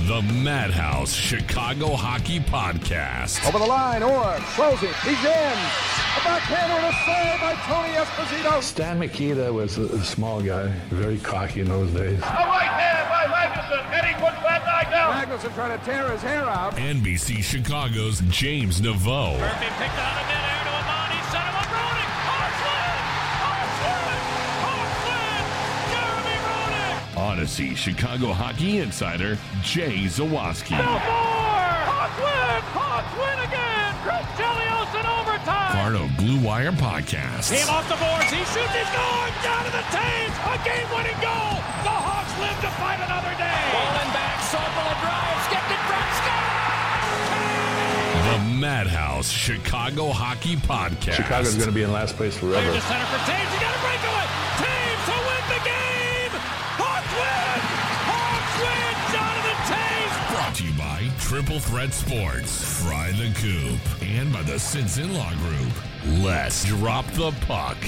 The Madhouse Chicago Hockey Podcast. Over the line, Orr throws it. He's in. A backhander and a save by Tony Esposito. Stan Mikita was a small guy, very cocky in those days. A right hand by Magnuson, and he puts that guy down. Magnuson trying to tear his hair out. NBC Chicago's James Naveau. Murphy picked out of midair to Amani, set him up, Roenick. Hawks win! Jeremy Roenick! Odyssey Chicago Hockey Insider Jay Zawaski. No more! Hawks win again! Chris Chelios in overtime! Farno Blue Wire Podcast. Team off the boards, he shoots, he's going! Down to the Taves! A game-winning goal! The Hawks live to fight another day! Rolling back, Sokol drive, skipped it, Brett Scott! The Madhouse Chicago Hockey Podcast. Chicago's going to be in last place forever. Clear to center for Taves, he got a breakaway! Taves to win the game! Hawks win! Hawks win! Jonathan Taves! Brought to you by Triple Threat Sports, Fry the Coop, and by the Sinson Law Group. Let's drop the puck.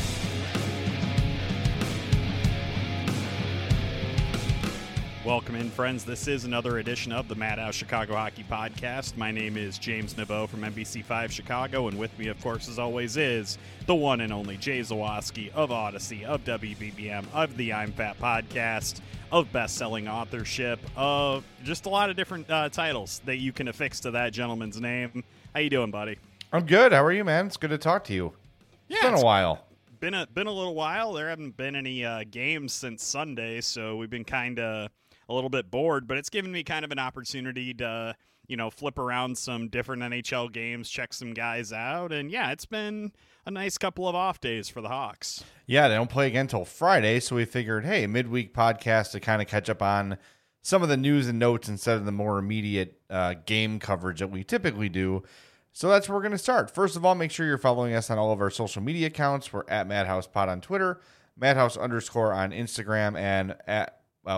Welcome in, friends. This is another edition of the Madhouse Chicago Hockey Podcast. My name is James Naveau from NBC5 Chicago, and with me, of course, as always, is the one and only Jay Zawaski of Odyssey, of WBBM, of the I'm Fat Podcast, of best-selling authorship, of just a lot of different titles that you can affix to that gentleman's name. How you doing, buddy? I'm good. How are you, man? It's good to talk to you. It's been a while. Been a little while. There haven't been any games since Sunday, so we've been kind of a little bit bored, but it's given me kind of an opportunity to, flip around some different NHL games, check some guys out, and yeah, it's been a nice couple of off days for the Hawks. Yeah, they don't play again until Friday, so we figured, hey, midweek podcast to kind of catch up on some of the news and notes instead of the more immediate game coverage that we typically do. So that's where we're going to start. First of all, make sure you're following us on all of our social media accounts. We're at MadhousePod on Twitter, Madhouse_ on Instagram, and at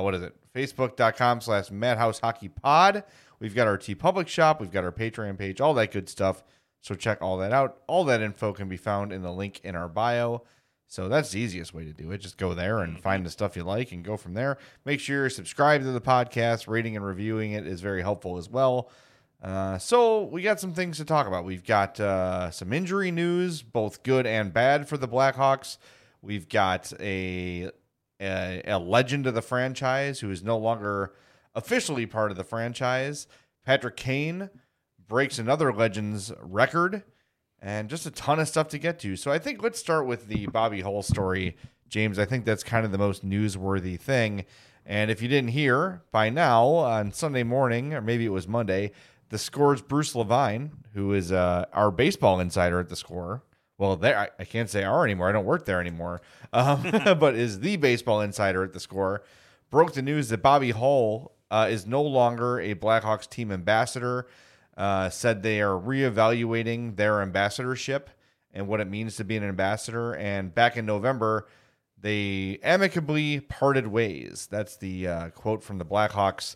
Facebook.com/MadhouseHockeyPod. We've got our TeePublic shop. We've got our Patreon page, all that good stuff. So check all that out. All that info can be found in the link in our bio. So that's the easiest way to do it. Just go there and find the stuff you like and go from there. Make sure you're subscribed to the podcast. Rating and reviewing it is very helpful as well. So we got some things to talk about. We've got some injury news, both good and bad for the Blackhawks. We've got a legend of the franchise who is no longer officially part of the franchise. Patrick Kane breaks another Legends record, and just a ton of stuff to get to. So I think let's start with the Bobby Hull story, James. I think that's kind of the most newsworthy thing. And if you didn't hear by now, on Sunday morning, or maybe it was Monday, the Score's Bruce Levine, who is our baseball insider at the Score. Well, there I can't say "are" anymore. I don't work there anymore. But is the baseball insider at the Score, broke the news that Bobby Hull is no longer a Blackhawks team ambassador. Said they are reevaluating their ambassadorship and what it means to be an ambassador. And back in November, they amicably parted ways. That's the quote from the Blackhawks.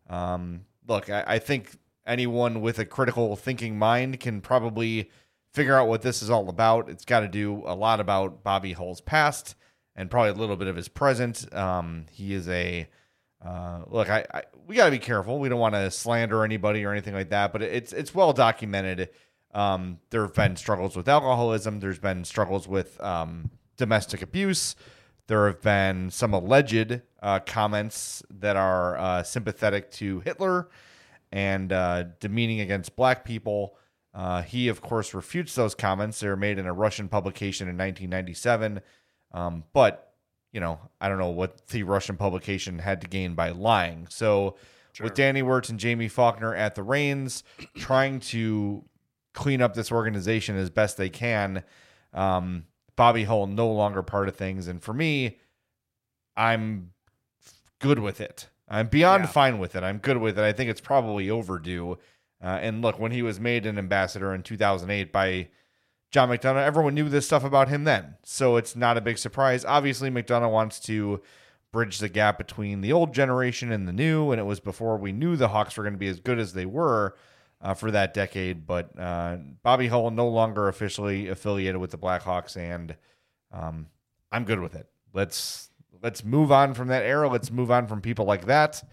Look, I think anyone with a critical thinking mind can probably figure out what this is all about. It's got to do a lot about Bobby Hull's past and probably a little bit of his present. He is a look. We got to be careful. We don't want to slander anybody or anything like that. But it's well documented. There have been struggles with alcoholism. There's been struggles with domestic abuse. There have been some alleged comments that are sympathetic to Hitler and demeaning against black people. He, of course, refutes those comments. They were made in a Russian publication in 1997. But, I don't know what the Russian publication had to gain by lying. So sure. With Danny Wirtz and Jamie Faulkner at the reins, trying to clean up this organization as best they can, Bobby Hull no longer part of things. And for me, I'm good with it. I'm beyond fine with it. I'm good with it. I think it's probably overdue. And look, when he was made an ambassador in 2008 by John McDonough, everyone knew this stuff about him then. So it's not a big surprise. Obviously, McDonough wants to bridge the gap between the old generation and the new, and it was before we knew the Hawks were going to be as good as they were for that decade. But Bobby Hull no longer officially affiliated with the Blackhawks, and I'm good with it. Let's move on from that era. Let's move on from people like that.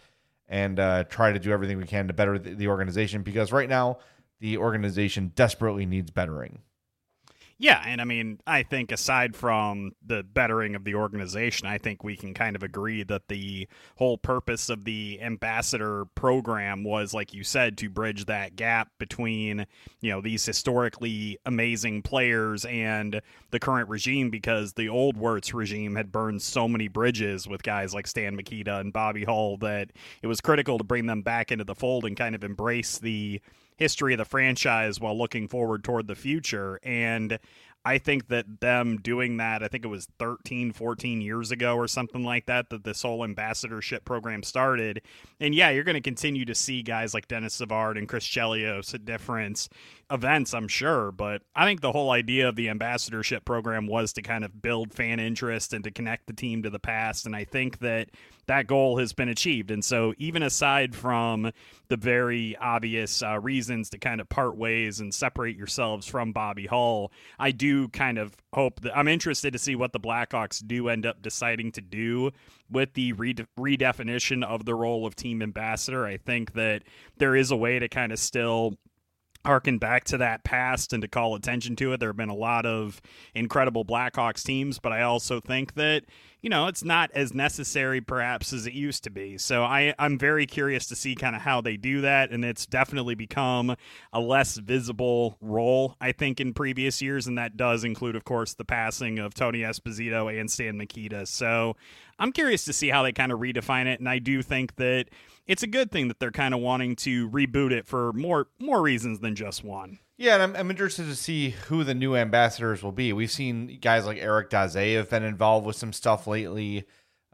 and try to do everything we can to better the organization, because right now the organization desperately needs bettering. Yeah, and I mean, I think aside from the bettering of the organization, I think we can kind of agree that the whole purpose of the ambassador program was, like you said, to bridge that gap between, these historically amazing players and the current regime, because the old Wirtz regime had burned so many bridges with guys like Stan Mikita and Bobby Hull that it was critical to bring them back into the fold and kind of embrace the history of the franchise while looking forward toward the future. And I think that them doing that, I think it was 13, 14 years ago or something like that this whole ambassadorship program started. And yeah, you're going to continue to see guys like Dennis Savard and Chris Chelios at different events, I'm sure. But I think the whole idea of the ambassadorship program was to kind of build fan interest and to connect the team to the past. And I think that goal has been achieved. And so even aside from the very obvious reasons to kind of part ways and separate yourselves from Bobby Hull, I do kind of hope that I'm interested to see what the Blackhawks do end up deciding to do with the redefinition of the role of team ambassador. I think that there is a way to kind of still harken back to that past and to call attention to it. There have been a lot of incredible Blackhawks teams, but I also think that, it's not as necessary perhaps as it used to be. So I'm very curious to see kind of how they do that. And it's definitely become a less visible role, I think, in previous years. And that does include, of course, the passing of Tony Esposito and Stan Mikita. So I'm curious to see how they kind of redefine it. And I do think that it's a good thing that they're kind of wanting to reboot it for more reasons than just one. Yeah, and I'm interested to see who the new ambassadors will be. We've seen guys like Eric Daze have been involved with some stuff lately.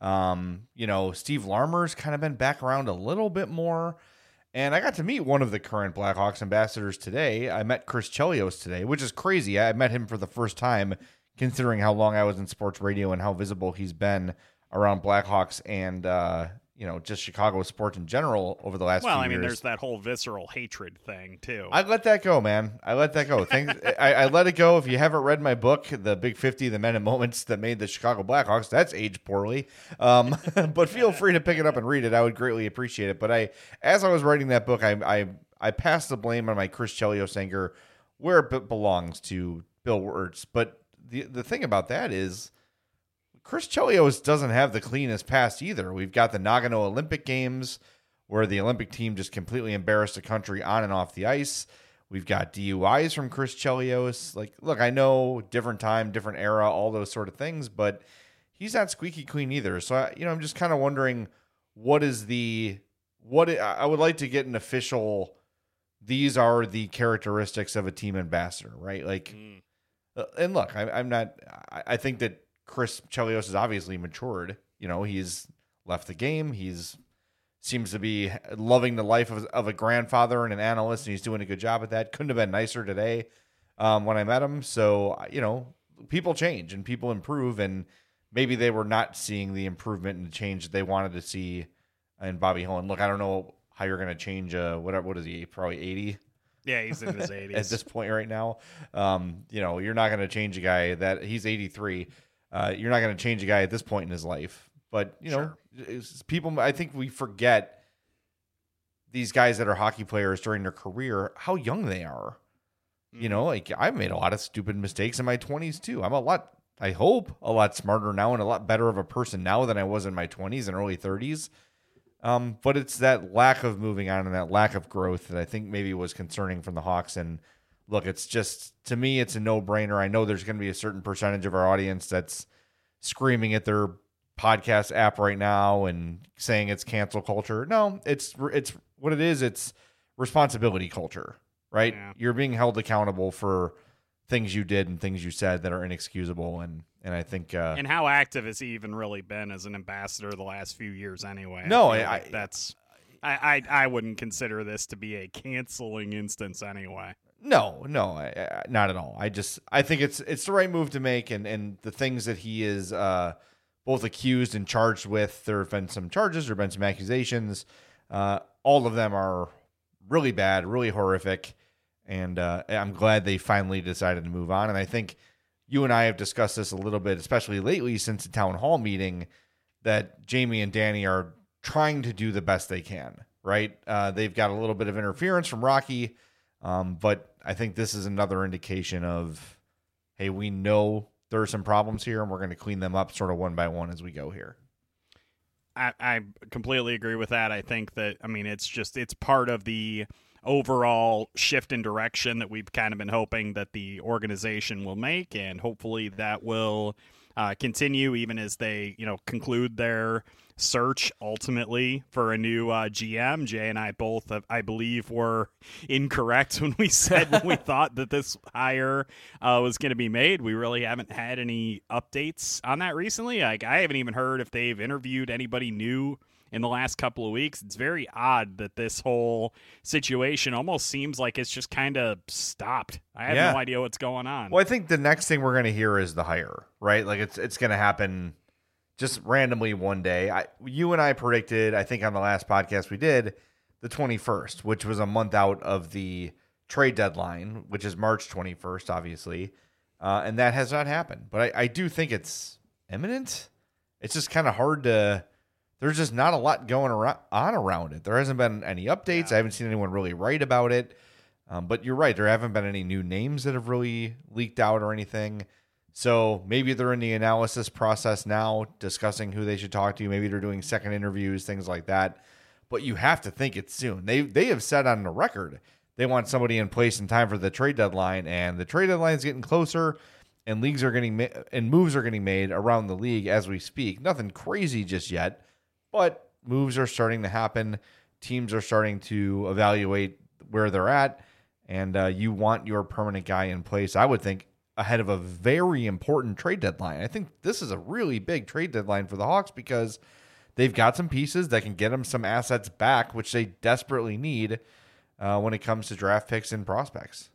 Steve Larmer's kind of been back around a little bit more. And I got to meet one of the current Blackhawks ambassadors today. I met Chris Chelios today, which is crazy. I met him for the first time, considering how long I was in sports radio and how visible he's been around Blackhawks and just Chicago sports in general over the last few years. Well, I mean, there's that whole visceral hatred thing, too. I let that go, man. I let that go. I let it go. If you haven't read my book, The Big 50, The Men and Moments That Made the Chicago Blackhawks, that's aged poorly. But feel free to pick it up and read it. I would greatly appreciate it. But as I was writing that book, I passed the blame on my Chris Chelios anger where it belongs, to Bill Wirtz. But the thing about that is, Chris Chelios doesn't have the cleanest past either. We've got the Nagano Olympic Games where the Olympic team just completely embarrassed the country on and off the ice. We've got DUIs from Chris Chelios. Look, I know different time, different era, all those sort of things, but he's not squeaky clean either. So, I'm just kind of wondering I would like to get an official, these are the characteristics of a team ambassador, right? And look, I think that Chris Chelios has obviously matured. He's left the game. He's seems to be loving the life of a grandfather and an analyst, and he's doing a good job at that. Couldn't have been nicer today when I met him. So, people change and people improve, and maybe they were not seeing the improvement and the change that they wanted to see in Bobby Hull. And look, I don't know how you're going to change what is he, probably 80? Yeah, he's in his 80s. At this point right now. You're not going to change a guy that he's 83. You're not going to change a guy at this point in his life. But, sure. People, I think we forget these guys that are hockey players during their career, how young they are. I've made a lot of stupid mistakes in my 20s too. I'm I hope, a lot smarter now and a lot better of a person now than I was in my 20s and early 30s. But it's that lack of moving on and that lack of growth that I think maybe was concerning from the Hawks. And look, it's just, to me, it's a no-brainer. I know there's going to be a certain percentage of our audience that's screaming at their podcast app right now and saying it's cancel culture. No, it's what it is. It's responsibility culture, right? Yeah. You're being held accountable for things you did and things you said that are inexcusable. And I think... and how active has he even really been as an ambassador the last few years anyway? No, I wouldn't consider this to be a canceling instance anyway. No, not at all. I think it's the right move to make, and the things that he is both accused and charged with, there have been some charges, there have been some accusations. All of them are really bad, really horrific, and I'm glad they finally decided to move on. And I think you and I have discussed this a little bit, especially lately since the town hall meeting, that Jamie and Danny are trying to do the best they can, right? They've got a little bit of interference from Rocky, but I think this is another indication of, hey, we know there are some problems here, and we're going to clean them up sort of one by one as we go here. I completely agree with that. I think that, it's part of the overall shift in direction that we've kind of been hoping that the organization will make, and hopefully that will continue even as they, conclude their search ultimately for a new GM. Jay and I both, I believe, were incorrect when we said when we thought that this hire was going to be made. We really haven't had any updates on that recently. Like, I haven't even heard if they've interviewed anybody new in the last couple of weeks. It's very odd that this whole situation almost seems like it's just kind of stopped. I have no idea what's going on. Well, I think the next thing we're going to hear is the hire, right? Like it's going to happen just randomly one day. You and I predicted, I think on the last podcast we did, the 21st, which was a month out of the trade deadline, which is March 21st, obviously. And that has not happened. But I do think it's imminent. It's just kind of hard to... There's just not a lot going on around it. There hasn't been any updates. I haven't seen anyone really write about it. But you're right. There haven't been any new names that have really leaked out or anything. So maybe they're in the analysis process now, discussing who they should talk to. Maybe they're doing second interviews, things like that. But you have to think it's soon. They have said on the record they want somebody in place in time for the trade deadline, and the trade deadline is getting closer, and moves are getting made around the league as we speak. Nothing crazy just yet. But moves are starting to happen. Teams are starting to evaluate where they're at. And you want your permanent guy in place, I would think, ahead of a very important trade deadline. I think this is a really big trade deadline for the Hawks because they've got some pieces that can get them some assets back, which they desperately need when it comes to draft picks and prospects.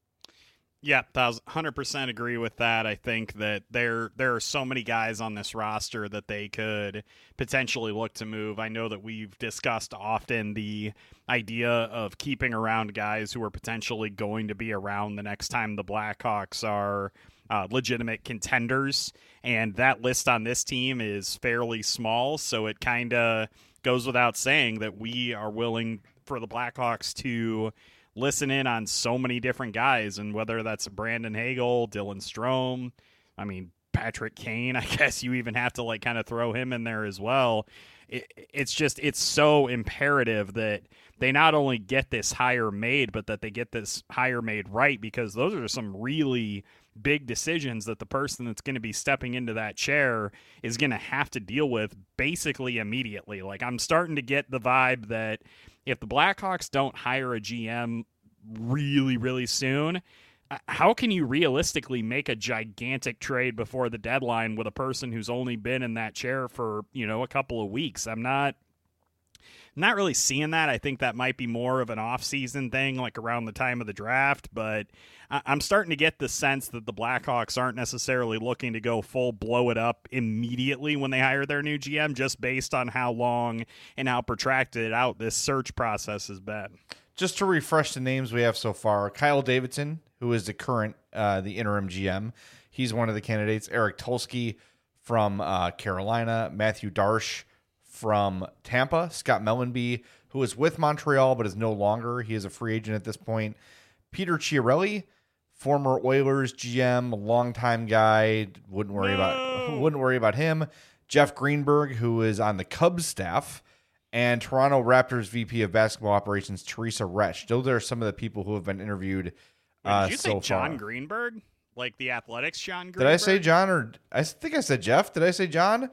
Yeah, 100% agree with that. I think that there are so many guys on this roster that they could potentially look to move. I know that we've discussed often the idea of keeping around guys who are potentially going to be around the next time the Blackhawks are legitimate contenders, and that list on this team is fairly small, so it kind of goes without saying that we are willing for the Blackhawks to listen in on so many different guys, and whether that's Brandon Hagel, Dylan Strome, Patrick Kane, I guess you even have to kind of throw him in there as well. It's so imperative that they not only get this hire made, but that they get this hire made right, because those are some really big decisions that the person that's going to be stepping into that chair is going to have to deal with basically immediately. Like, I'm starting to get the vibe that if the Blackhawks don't hire a GM really, really soon, how can you realistically make a gigantic trade before the deadline with a person who's only been in that chair for, a couple of weeks? I'm not really seeing that. I think that might be more of an off-season thing, like around the time of the draft, but I'm starting to get the sense that the Blackhawks aren't necessarily looking to go full blow it up immediately when they hire their new GM, just based on how long and how protracted out this search process has been. Just to refresh the names we have so far, Kyle Davidson, who is the interim GM. He's one of the candidates. Eric Tulsky from Carolina, Matthew Darsh from Tampa, Scott Mellenby, who is with Montreal but is no longer. He is a free agent at this point. Peter Chiarelli, former Oilers GM, longtime guy. Wouldn't worry about him. Jeff Greenberg, who is on the Cubs staff, and Toronto Raptors VP of Basketball Operations Teresa Resch. Those are some of the people who have been interviewed. Did you say John Greenberg? Like the Athletics John Greenberg? Did I say John, or I think I said Jeff? Did I say John?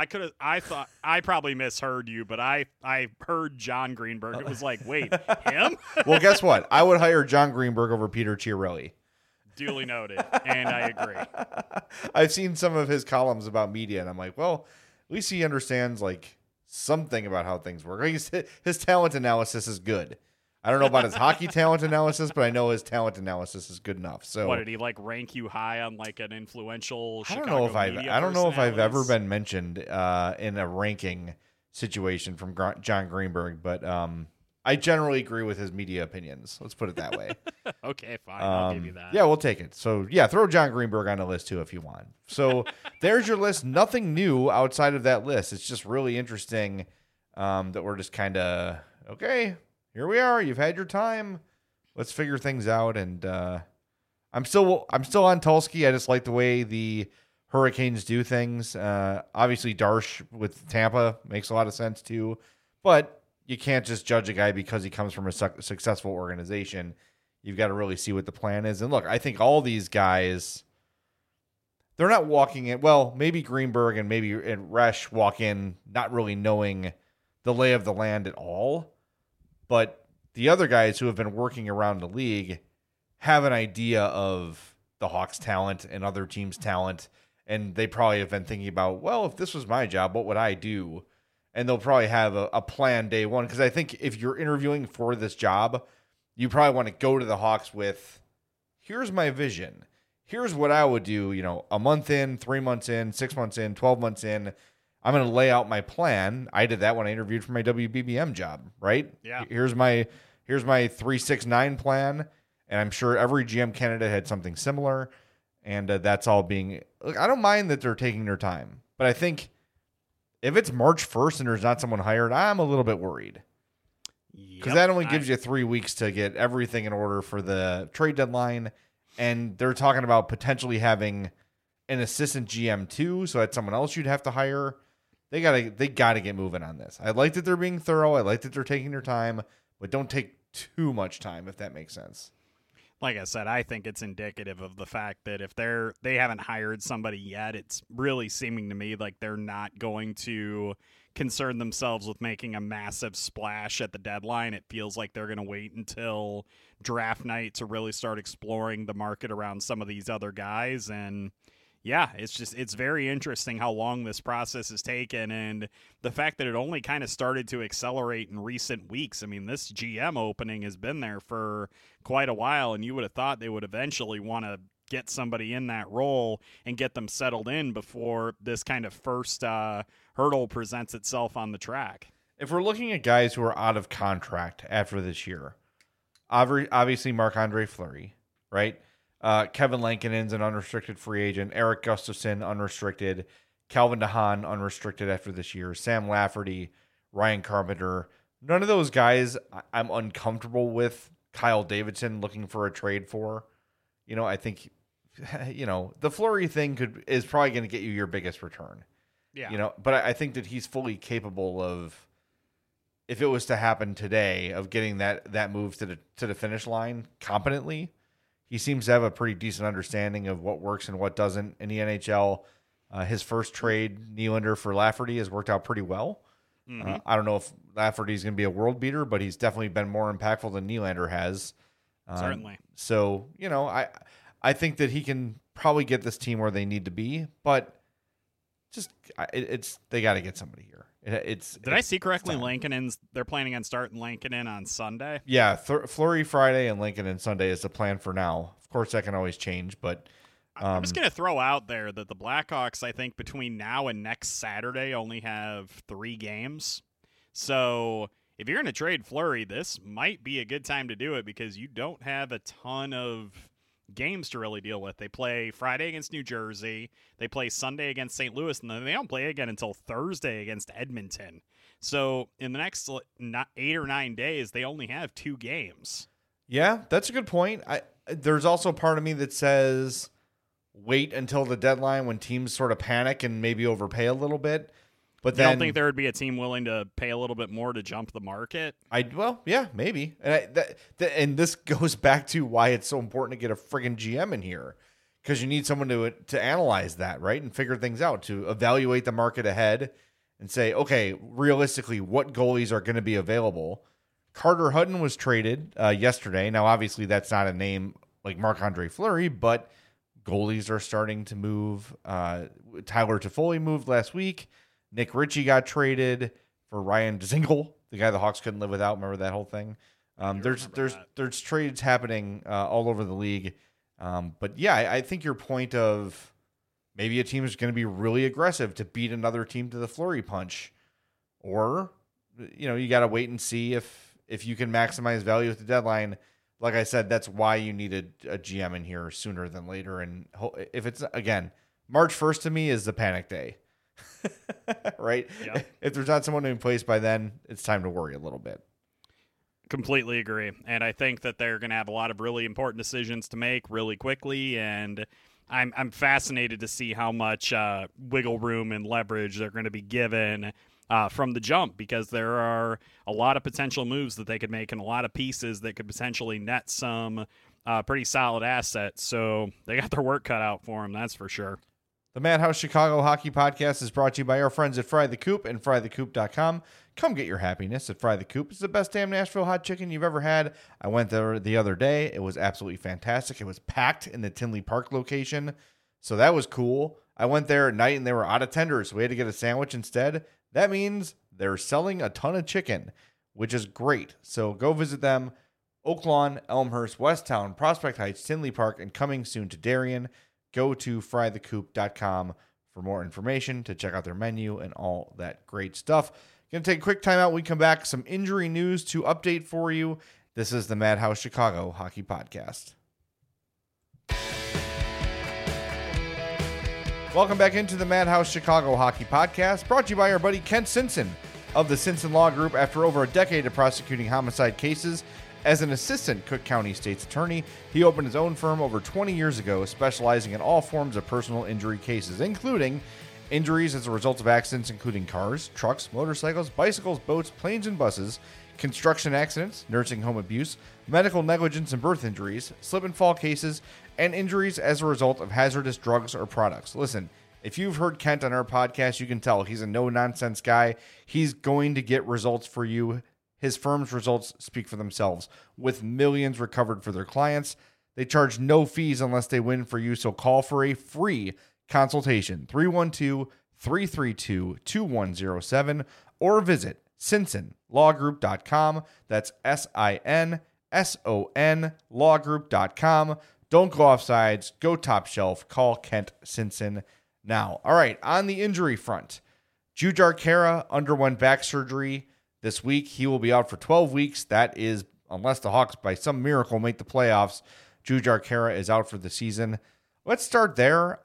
I thought I probably misheard you, but I heard John Greenberg. It was like, wait, him? Well, guess what? I would hire John Greenberg over Peter Chiarelli. Duly noted, and I agree. I've seen some of his columns about media, and I'm like, well, at least he understands something about how things work. His talent analysis is good. I don't know about his hockey talent analysis, but I know his talent analysis is good enough. So, what did he rank you high on an influential Chicago I don't know if I've ever been mentioned in a ranking situation from John Greenberg, but I generally agree with his media opinions. Let's put it that way. Okay, fine. I'll give you that. Yeah, we'll take it. So, yeah, throw John Greenberg on the list too if you want. So, there's your list. Nothing new outside of that list. It's just really interesting that we're just kind of, okay, here we are. You've had your time. Let's figure things out. And I'm still on Tulsky. I just like the way the Hurricanes do things. Obviously, Darsh with Tampa makes a lot of sense too. But you can't just judge a guy because he comes from a successful organization. You've got to really see what the plan is. And look, I think all these guys, they're not walking in. Well, maybe Greenberg and Resch walk in not really knowing the lay of the land at all. But the other guys who have been working around the league have an idea of the Hawks' talent and other teams' talent. And they probably have been thinking about, well, if this was my job, what would I do? And they'll probably have a plan day one. Because I think if you're interviewing for this job, you probably want to go to the Hawks with, here's my vision. Here's what I would do, a month in, 3 months in, 6 months in, 12 months in. I'm going to lay out my plan. I did that when I interviewed for my WBBM job, right? Yeah. Here's my 3-6-9 plan. And I'm sure every GM candidate had something similar. And that's all being, look, I don't mind that they're taking their time. But I think if it's March 1st and there's not someone hired, I'm a little bit worried. Because that only gives you 3 weeks to get everything in order for the trade deadline. And they're talking about potentially having an assistant GM too. So that's someone else you'd have to hire. They gotta get moving on this. I like that they're being thorough. I like that they're taking their time, but don't take too much time, if that makes sense. Like I said, I think it's indicative of the fact that if they haven't hired somebody yet, it's really seeming to me like they're not going to concern themselves with making a massive splash at the deadline. It feels like they're going to wait until draft night to really start exploring the market around some of these other guys. And yeah, it's very interesting how long this process has taken, and the fact that it only kind of started to accelerate in recent weeks. I mean, this GM opening has been there for quite a while, and you would have thought they would eventually want to get somebody in that role and get them settled in before this kind of first hurdle presents itself on the track. If we're looking at guys who are out of contract after this year, obviously Marc-Andre Fleury, right? Kevin Lankinen's an unrestricted free agent. Eric Gustafson, unrestricted. Calvin DeHaan, unrestricted after this year. Sam Lafferty, Ryan Carpenter. None of those guys I'm uncomfortable with Kyle Davidson looking for a trade for. I think, the Fleury thing is probably going to get you your biggest return. Yeah. But I think that he's fully capable of, if it was to happen today, of getting that move to the finish line competently. He seems to have a pretty decent understanding of what works and what doesn't in the NHL. His first trade, Nylander for Lafferty, has worked out pretty well. Mm-hmm. I don't know if Lafferty's going to be a world beater, but he's definitely been more impactful than Nylander has. Certainly. So, I think that he can probably get this team where they need to be, but they got to get somebody here. Did I see correctly? They're planning on starting Lankinen on Sunday. Yeah, Fleury Friday and Lankinen Sunday is the plan for now. Of course, that can always change, but I'm just going to throw out there that the Blackhawks, I think, between now and next Saturday only have 3 games. So if you're going to trade Fleury, this might be a good time to do it because you don't have a ton of games to really deal with. They play Friday against New Jersey, they play Sunday against St. Louis, and then they don't play again until Thursday against Edmonton. So in the next 8 or 9 days, they only have 2 games. Yeah, that's a good point. There's also part of me that says wait until the deadline when teams sort of panic and maybe overpay a little bit. But then, you don't think there would be a team willing to pay a little bit more to jump the market? Well, yeah, maybe. And this goes back to why it's so important to get a friggin' GM in here, because you need someone to analyze that, right, and figure things out, to evaluate the market ahead and say, okay, realistically, what goalies are going to be available? Carter Hutton was traded yesterday. Now, obviously, that's not a name like Marc-Andre Fleury, but goalies are starting to move. Tyler Toffoli moved last week. Nick Ritchie got traded for Ryan Dzingel, the guy the Hawks couldn't live without. Remember that whole thing? There's trades happening all over the league. But yeah, I think your point of maybe a team is going to be really aggressive to beat another team to the Fleury punch, or you got to wait and see if you can maximize value at the deadline. Like I said, that's why you needed a GM in here sooner than later. And if it's, again, March 1st to me is the panic day. right? Yep. If there's not someone in place by then, it's time to worry a little bit. Completely agree. And I think that they're going to have a lot of really important decisions to make really quickly. And I'm fascinated to see how much wiggle room and leverage they're going to be given from the jump, because there are a lot of potential moves that they could make and a lot of pieces that could potentially net some pretty solid assets. So they got their work cut out for them, that's for sure. The Madhouse Chicago Hockey Podcast is brought to you by our friends at Fry the Coop and FryTheCoop.com. Come get your happiness at Fry the Coop. It's the best damn Nashville hot chicken you've ever had. I went there the other day. It was absolutely fantastic. It was packed in the Tinley Park location, so that was cool. I went there at night and they were out of tenders, so we had to get a sandwich instead. That means they're selling a ton of chicken, which is great. So go visit them. Oak Lawn, Elmhurst, Westtown, Prospect Heights, Tinley Park, and coming soon to Darien. Go to frythecoop.com for more information, to check out their menu and all that great stuff. Going to take a quick time out. When we come back, some injury news to update for you. This is the Madhouse Chicago Hockey Podcast. Welcome back into the Madhouse Chicago Hockey Podcast, brought to you by our buddy Kent Simpson of the Simpson Law Group. After over a decade of prosecuting homicide cases as an assistant Cook County State's attorney, he opened his own firm over 20 years ago, specializing in all forms of personal injury cases, including injuries as a result of accidents including cars, trucks, motorcycles, bicycles, boats, planes and buses, construction accidents, nursing home abuse, medical negligence and birth injuries, slip and fall cases, and injuries as a result of hazardous drugs or products. Listen, if you've heard Kent on our podcast, you can tell he's a no-nonsense guy. He's going to get results for you. His firm's results speak for themselves. With millions recovered for their clients, they charge no fees unless they win for you, so call for a free consultation, 312-332-2107, or visit SinsonLawGroup.com. That's SINSON lawgroup.com. Don't go off sides. Go top shelf. Call Kent Simpson now. All right, on the injury front, Jujhar Khaira underwent back surgery this week. He will be out for 12 weeks. That is, unless the Hawks by some miracle make the playoffs, Jujhar Khaira is out for the season. Let's start there.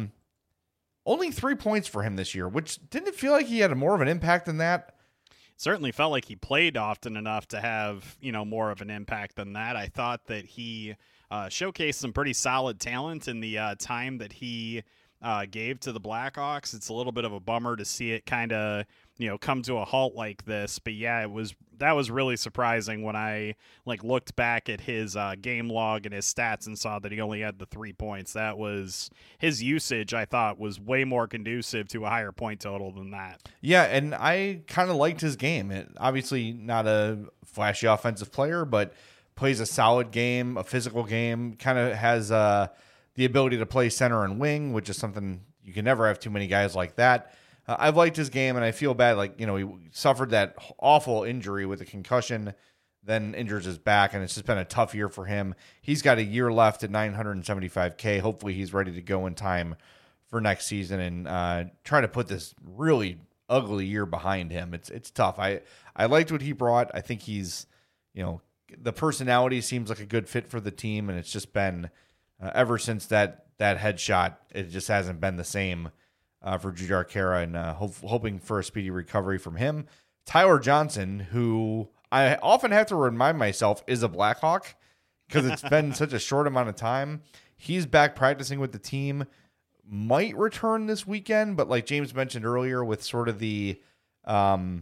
Only 3 points for him this year, which didn't feel like he had more of an impact than that. Certainly felt like he played often enough to have, more of an impact than that. I thought that he showcased some pretty solid talent in the time that he gave to the Blackhawks. It's a little bit of a bummer to see it kind of, come to a halt like this. But yeah, that was really surprising when I looked back at his game log and his stats and saw that he only had the 3 points. That was his usage. I thought was way more conducive to a higher point total than that. Yeah, and I kind of liked his game. Obviously not a flashy offensive player, but plays a solid game, a physical game, kind of has the ability to play center and wing, which is something you can never have too many guys like that. I've liked his game, and I feel bad. He suffered that awful injury with a concussion, then injures his back, and it's just been a tough year for him. He's got a year left at $975K. Hopefully he's ready to go in time for next season and try to put this really ugly year behind him. It's tough. I liked what he brought. I think he's, the personality seems like a good fit for the team, and it's just been ever since that headshot, it just hasn't been the same for Jujhar Khaira, and hoping for a speedy recovery from him. Tyler Johnson, who I often have to remind myself is a Blackhawk because it's been such a short amount of time. He's back practicing with the team, might return this weekend, but like James mentioned earlier, with sort of the the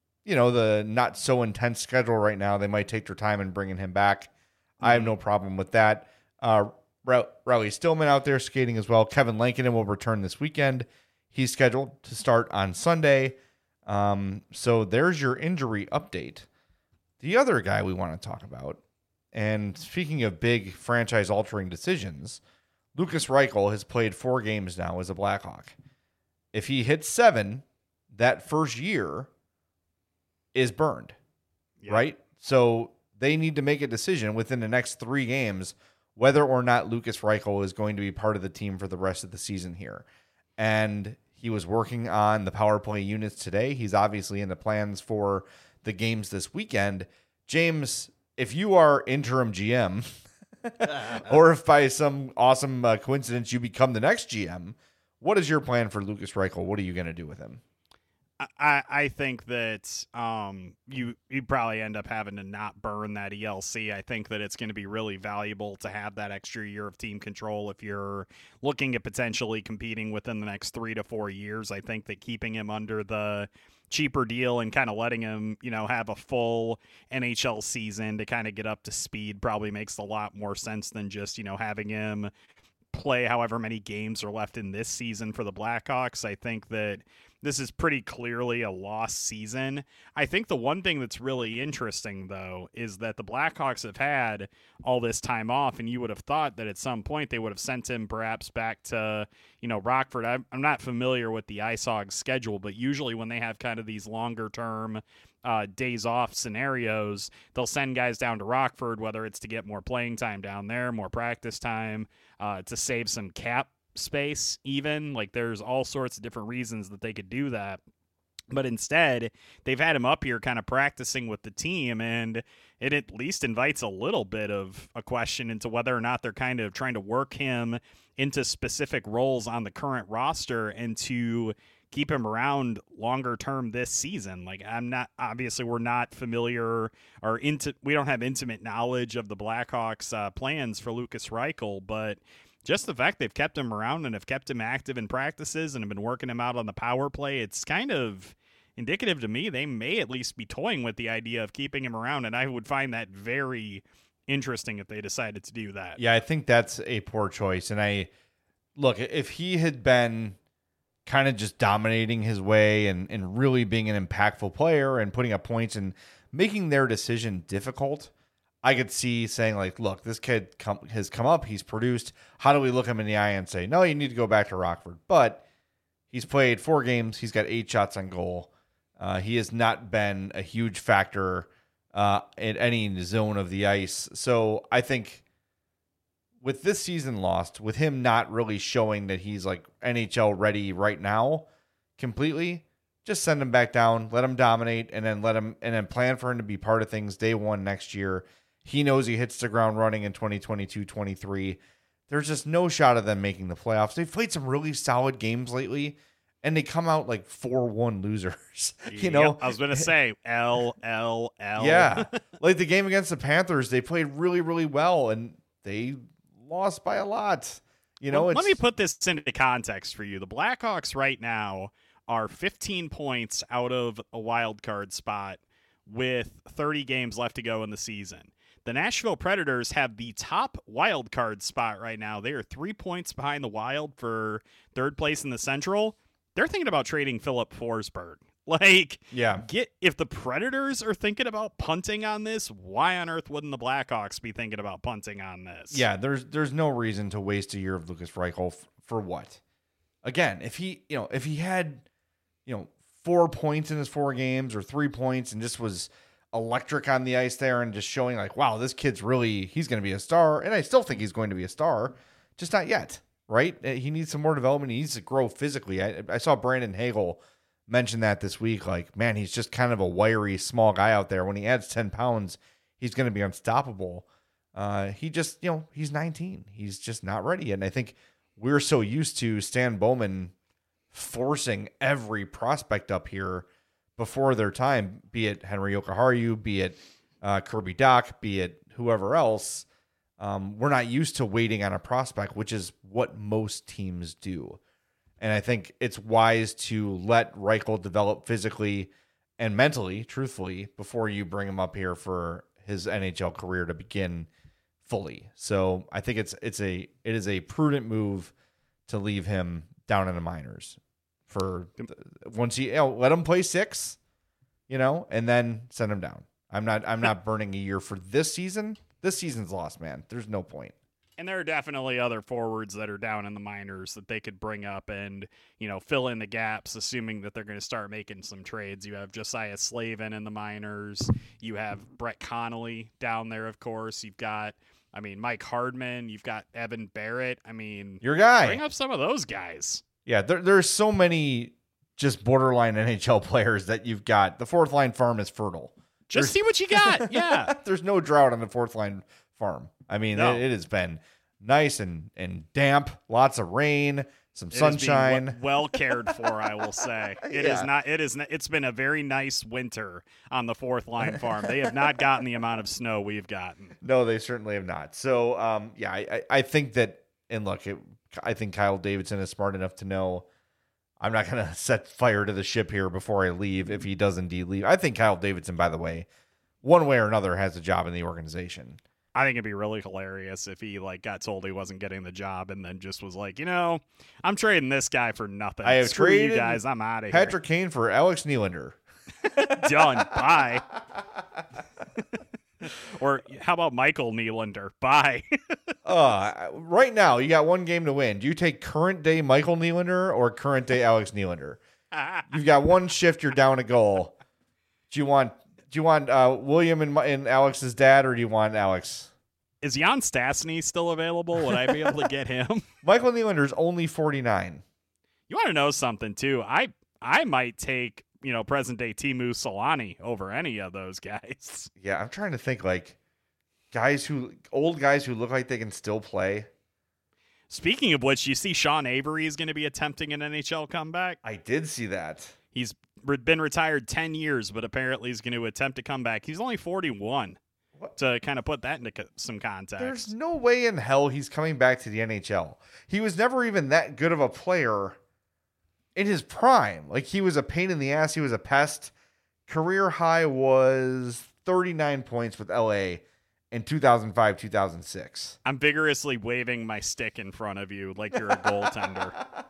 not so intense schedule right now, they might take their time in bringing him back. I have no problem with that. Riley Stillman out there skating as well. Kevin Lankinen will return this weekend. He's scheduled to start on Sunday. So there's your injury update. The other guy we want to talk about, and speaking of big franchise-altering decisions, Lukas Reichel has played 4 games now as a Blackhawk. If he hits 7, that first year is burned, right? So they need to make a decision within the next 3 games whether or not Lukas Reichel is going to be part of the team for the rest of the season here. And he was working on the power play units today. He's obviously in the plans for the games this weekend. James, if you are interim GM, or if by some awesome coincidence you become the next GM, What is your plan for Lukas Reichel? What are you going to do with him? I think that you probably end up having to not burn that ELC. I think that it's going to be really valuable to have that extra year of team control if you're looking at potentially competing within the next 3 to 4 years. I think that keeping him under the cheaper deal and kind of letting him, have a full NHL season to kind of get up to speed probably makes a lot more sense than just, having him play however many games are left in this season for the Blackhawks. I think that this is pretty clearly a lost season. I think the one thing that's really interesting, though, is that the Blackhawks have had all this time off, and you would have thought that at some point they would have sent him perhaps back to, Rockford. I'm not familiar with the ISOG schedule, but usually when they have kind of these longer-term days off scenarios, they'll send guys down to Rockford, whether it's to get more playing time down there, more practice time, to save some cap space even. Like, there's all sorts of different reasons that they could do that, but instead they've had him up here kind of practicing with the team, and it at least invites a little bit of a question into whether or not they're kind of trying to work him into specific roles on the current roster and to keep him around longer term this season. Like, we're not familiar or we don't have intimate knowledge of the Blackhawks plans for Lukas Reichel, but just the fact they've kept him around and have kept him active in practices and have been working him out on the power play, it's kind of indicative to me they may at least be toying with the idea of keeping him around, and I would find that very interesting if they decided to do that. Yeah, I think that's a poor choice. And if he had been kind of just dominating his way and really being an impactful player and putting up points and making their decision difficult, I could see saying, like, look, this kid has come up, he's produced. How do we look him in the eye and say, no, you need to go back to Rockford? But he's played 4 games. He's got 8 shots on goal. He has not been a huge factor in any zone of the ice. So I think with this season lost, with him not really showing that he's like NHL ready right now completely, just send him back down, let him dominate, and then plan for him to be part of things day one next year. He knows he hits the ground running in 2022-23. There's just no shot of them making the playoffs. They've played some really solid games lately, and they come out like 4-1 losers. Yep, I was going to say, L. Yeah. Like the game against the Panthers, they played really, really well, and they lost by a lot. Let me put this into context for you. The Blackhawks right now are 15 points out of a wild card spot with 30 games left to go in the season. The Nashville Predators have the top wild card spot right now. They are 3 points behind the Wild for third place in the Central. They're thinking about trading Philip Forsberg. If the Predators are thinking about punting on this, why on earth wouldn't the Blackhawks be thinking about punting on this? Yeah, there's no reason to waste a year of Lukas Reichel for what? Again, if he had 4 points in his 4 games or 3 points and just was electric on the ice there and just showing like, wow, this kid's he's going to be a star. And I still think he's going to be a star, just not yet, right? He needs some more development. He needs to grow physically. I saw Brandon Hagel mention that this week. Like, man, he's just kind of a wiry, small guy out there. When he adds 10 pounds, he's going to be unstoppable. He's 19. He's just not ready. And I think we're so used to Stan Bowman forcing every prospect up here before their time, be it Henry Jokiharju, be it Kirby Dach, be it whoever else. We're not used to waiting on a prospect, which is what most teams do. And I think it's wise to let Reichel develop physically and mentally, truthfully, before you bring him up here for his NHL career to begin fully. So I think it is a prudent move to leave him down in the minors for once let him play 6, and then send him down. I'm not burning a year for this season. This season's lost, man. There's no point. And there are definitely other forwards that are down in the minors that they could bring up and, fill in the gaps, assuming that they're going to start making some trades. You have Josiah Slavin in the minors. You have Brett Connolly down there, of course. You've got, Mike Hardman. You've got Evan Barrett. Your guy. Bring up some of those guys. Yeah, there's so many just borderline NHL players that you've got. The fourth line farm is fertile. See what you got. Yeah. There's no drought on the fourth line farm. No. It has been nice and damp, lots of rain. some It is sunshine. being well cared for, I will say. It is not. It is. It's been a very nice winter on the Fourth Line Farm. They have not gotten the amount of snow we've gotten. No, they certainly have not. So, I think that, and look, I think Kyle Davidson is smart enough to know I'm not going to set fire to the ship here before I leave if he does indeed leave. I think Kyle Davidson, by the way, one way or another, has a job in the organization. I think it'd be really hilarious if he got told he wasn't getting the job and then just was like, I'm trading this guy for nothing. I have Screw traded you guys. I'm out of here. Patrick Kane for Alex Nylander. Done. Bye. Or how about Michael Nylander? Bye. Right now, you got one game to win. Do you take current day Michael Nylander or current day Alex Nylander? You've got one shift. You're down a goal. Do you want William and Alex's dad, or do you want Alex? Is Jan Stastny still available? Would I be able to get him? Michael Nylander's only 49. You want to know something too? I might take present day Teemu Solani over any of those guys. Yeah, I'm trying to think old guys who look like they can still play. Speaking of which, you see Sean Avery is going to be attempting an NHL comeback. I did see that. He's been retired 10 years, but apparently he's going to attempt to come back. He's only 41. What? To kind of put that into some context. There's no way in hell he's coming back to the NHL. He was never even that good of a player in his prime. He was a pain in the ass. He was a pest. Career high was 39 points with LA in 2005, 2006. I'm vigorously waving my stick in front of you like you're a goaltender.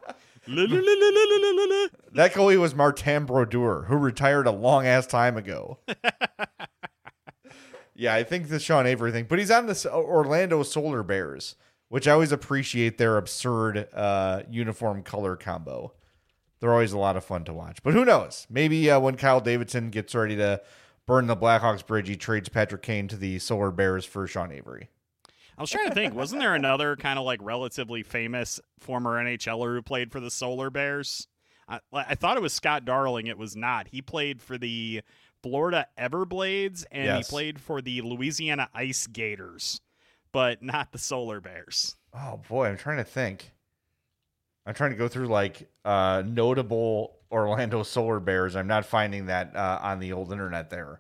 That goalie was Martin Brodeur, who retired a long-ass time ago. Yeah, I think the Sean Avery thing. But he's on the Orlando Solar Bears, which I always appreciate their absurd uniform color combo. They're always a lot of fun to watch. But who knows? Maybe when Kyle Davidson gets ready to burn the Blackhawks bridge, he trades Patrick Kane to the Solar Bears for Sean Avery. I was trying to think, wasn't there another kind of relatively famous former NHLer who played for the Solar Bears? I thought it was Scott Darling. It was not. He played for the Florida Everblades, and yes, he played for the Louisiana Ice Gators, but not the Solar Bears. Oh, boy, I'm trying to think. I'm trying to go through notable Orlando Solar Bears. I'm not finding that on the old internet there.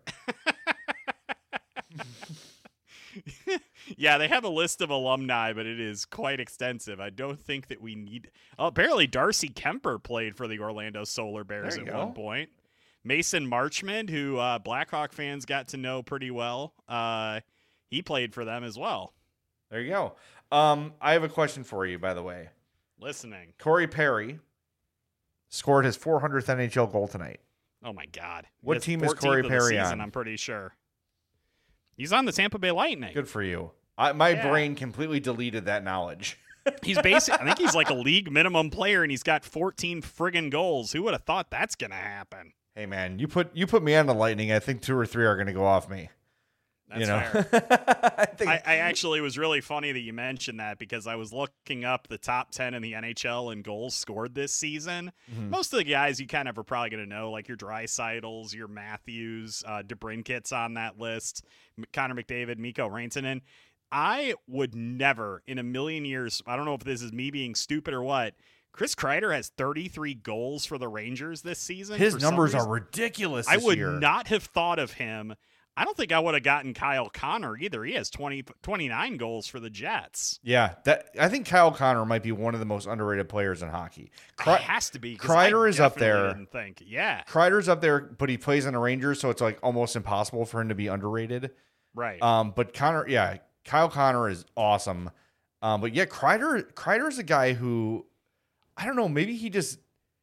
Yeah, they have a list of alumni, but it is quite extensive. I don't think that we need... Oh, apparently Darcy Kemper played for the Orlando Solar Bears at one point. Mason Marchment, who Blackhawk fans got to know pretty well, he played for them as well. There you go. I have a question for you, by the way. Listening. Corey Perry scored his 400th NHL goal tonight. Oh, my God. What team is Corey Perry on? I'm pretty sure. He's on the Tampa Bay Lightning. Good for you. My brain completely deleted that knowledge. He's basically, I think he's like a league minimum player, and he's got 14 friggin' goals. Who would have thought that's going to happen? Hey, man, you put me on the Lightning. I think 2 or 3 are going to go off me. That's fair. I actually was really funny that you mentioned that because I was looking up the top 10 in the NHL in goals scored this season. Mm-hmm. Most of the guys you kind of are probably going to know, like your Dreisaitl's, your Matthews, DeBrincat's on that list, Connor McDavid, Mikko Rantanen. I would never in a million years, I don't know if this is me being stupid or what, Chris Kreider has 33 goals for the Rangers this season. His numbers are ridiculous this year. I would not have thought of him. I don't think I would have gotten Kyle Connor either. He has 29 goals for the Jets. Yeah, I think Kyle Connor might be one of the most underrated players in hockey. It has to be. Kreider is up there. Didn't think. Yeah. Kreider's up there, but he plays on the Rangers, so it's almost impossible for him to be underrated. Right. But Connor, yeah, Kyle Connor is awesome. But yeah, Kreider's a guy who, I don't know, maybe he just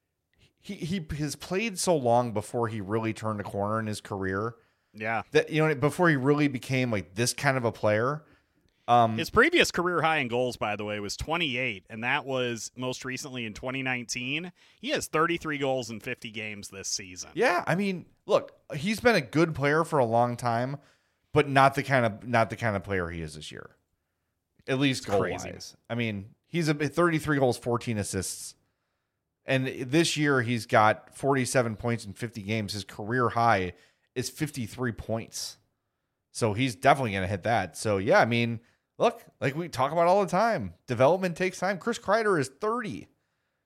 he has played so long before he really turned a corner in his career. Yeah. That before he really became this kind of a player. His previous career high in goals, by the way, was 28, and that was most recently in 2019. He has 33 goals in 50 games this season. Yeah, I mean, look, he's been a good player for a long time, but not the kind of player he is this year. At least goal-wise. I mean, he's 33 goals, 14 assists. And this year he's got 47 points in 50 games. His career high is 53 points. So he's definitely going to hit that. So, yeah, I mean, look, like we talk about all the time, development takes time. Chris Kreider is 30.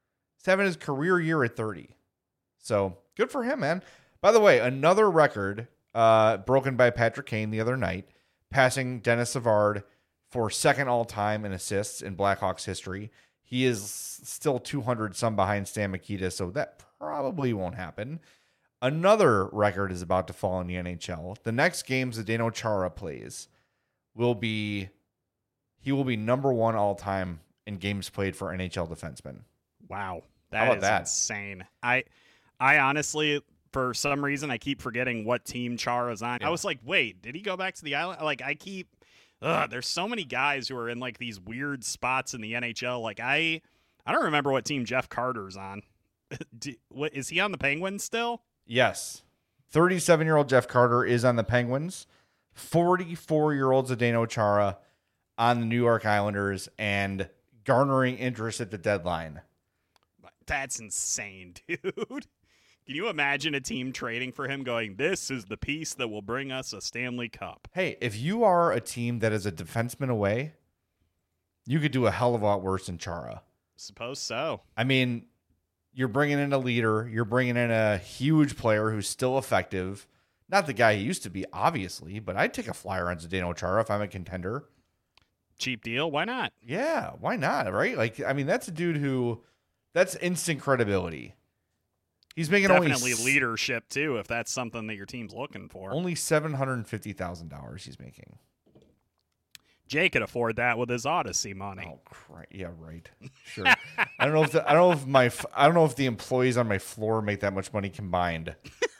He's having his career year at 30. So good for him, man. By the way, another record broken by Patrick Kane the other night, passing Dennis Savard for second all-time in assists in Blackhawks history. He is still 200 some behind Stan Mikita, so that probably won't happen. Another record is about to fall in the NHL. The next games Zdeno Chara plays he will be number one all-time in games played for NHL defensemen. Wow. That is insane. I honestly, for some reason, I keep forgetting what team Chara's on. Yeah. I was like, wait, did he go back to the island? Like, there's so many guys who are in like these weird spots in the NHL. Like, I don't remember what team Jeff Carter's on. What is he on the Penguins still? Yes. 37-year-old Jeff Carter is on the Penguins. 44-year-old Zdeno Chara on the New York Islanders and garnering interest at the deadline. That's insane, dude. Can you imagine a team trading for him going, this is the piece that will bring us a Stanley Cup? Hey, if you are a team that is a defenseman away, you could do a hell of a lot worse than Chara. Suppose so. I mean, you're bringing in a leader. You're bringing in a huge player who's still effective. Not the guy he used to be, obviously, but I'd take a flyer on Zdeno Chara if I'm a contender. Cheap deal. Why not? Yeah, why not, right? Like, I mean, that's a dude who, that's instant credibility. He's making definitely leadership, too, if that's something that your team's looking for. Only $750,000 he's making. Jay could afford that with his Odyssey money. Oh, yeah, right. Sure. I don't know if the employees on my floor make that much money combined.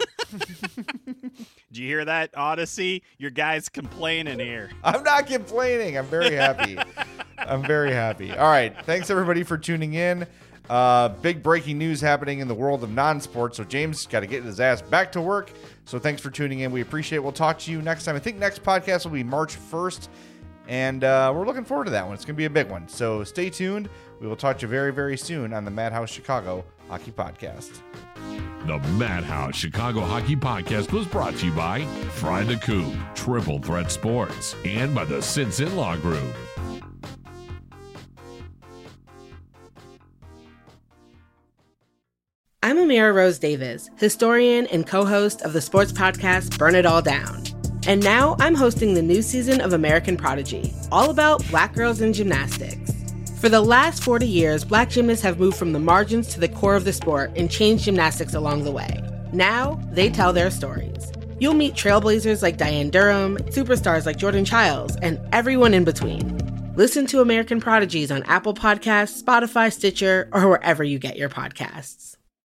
Did you hear that, Odyssey? Your guy's complaining here. I'm not complaining. I'm very happy. All right. Thanks, everybody, for tuning in. Big breaking news happening in the world of non-sports. So James got to get his ass back to work. So thanks for tuning in. We appreciate it. We'll talk to you next time. I think next podcast will be March 1st. And we're looking forward to that one. It's going to be a big one. So stay tuned. We will talk to you very, very soon on the Madhouse Chicago Hockey Podcast. The Madhouse Chicago Hockey Podcast was brought to you by Fry the Coop, Triple Threat Sports, and by the Sinson Law Group. I'm Amira Rose Davis, historian and co-host of the sports podcast Burn It All Down. And now I'm hosting the new season of American Prodigy, all about Black girls in gymnastics. For the last 40 years, Black gymnasts have moved from the margins to the core of the sport and changed gymnastics along the way. Now, they tell their stories. You'll meet trailblazers like Diane Durham, superstars like Jordan Childs, and everyone in between. Listen to American Prodigies on Apple Podcasts, Spotify, Stitcher, or wherever you get your podcasts.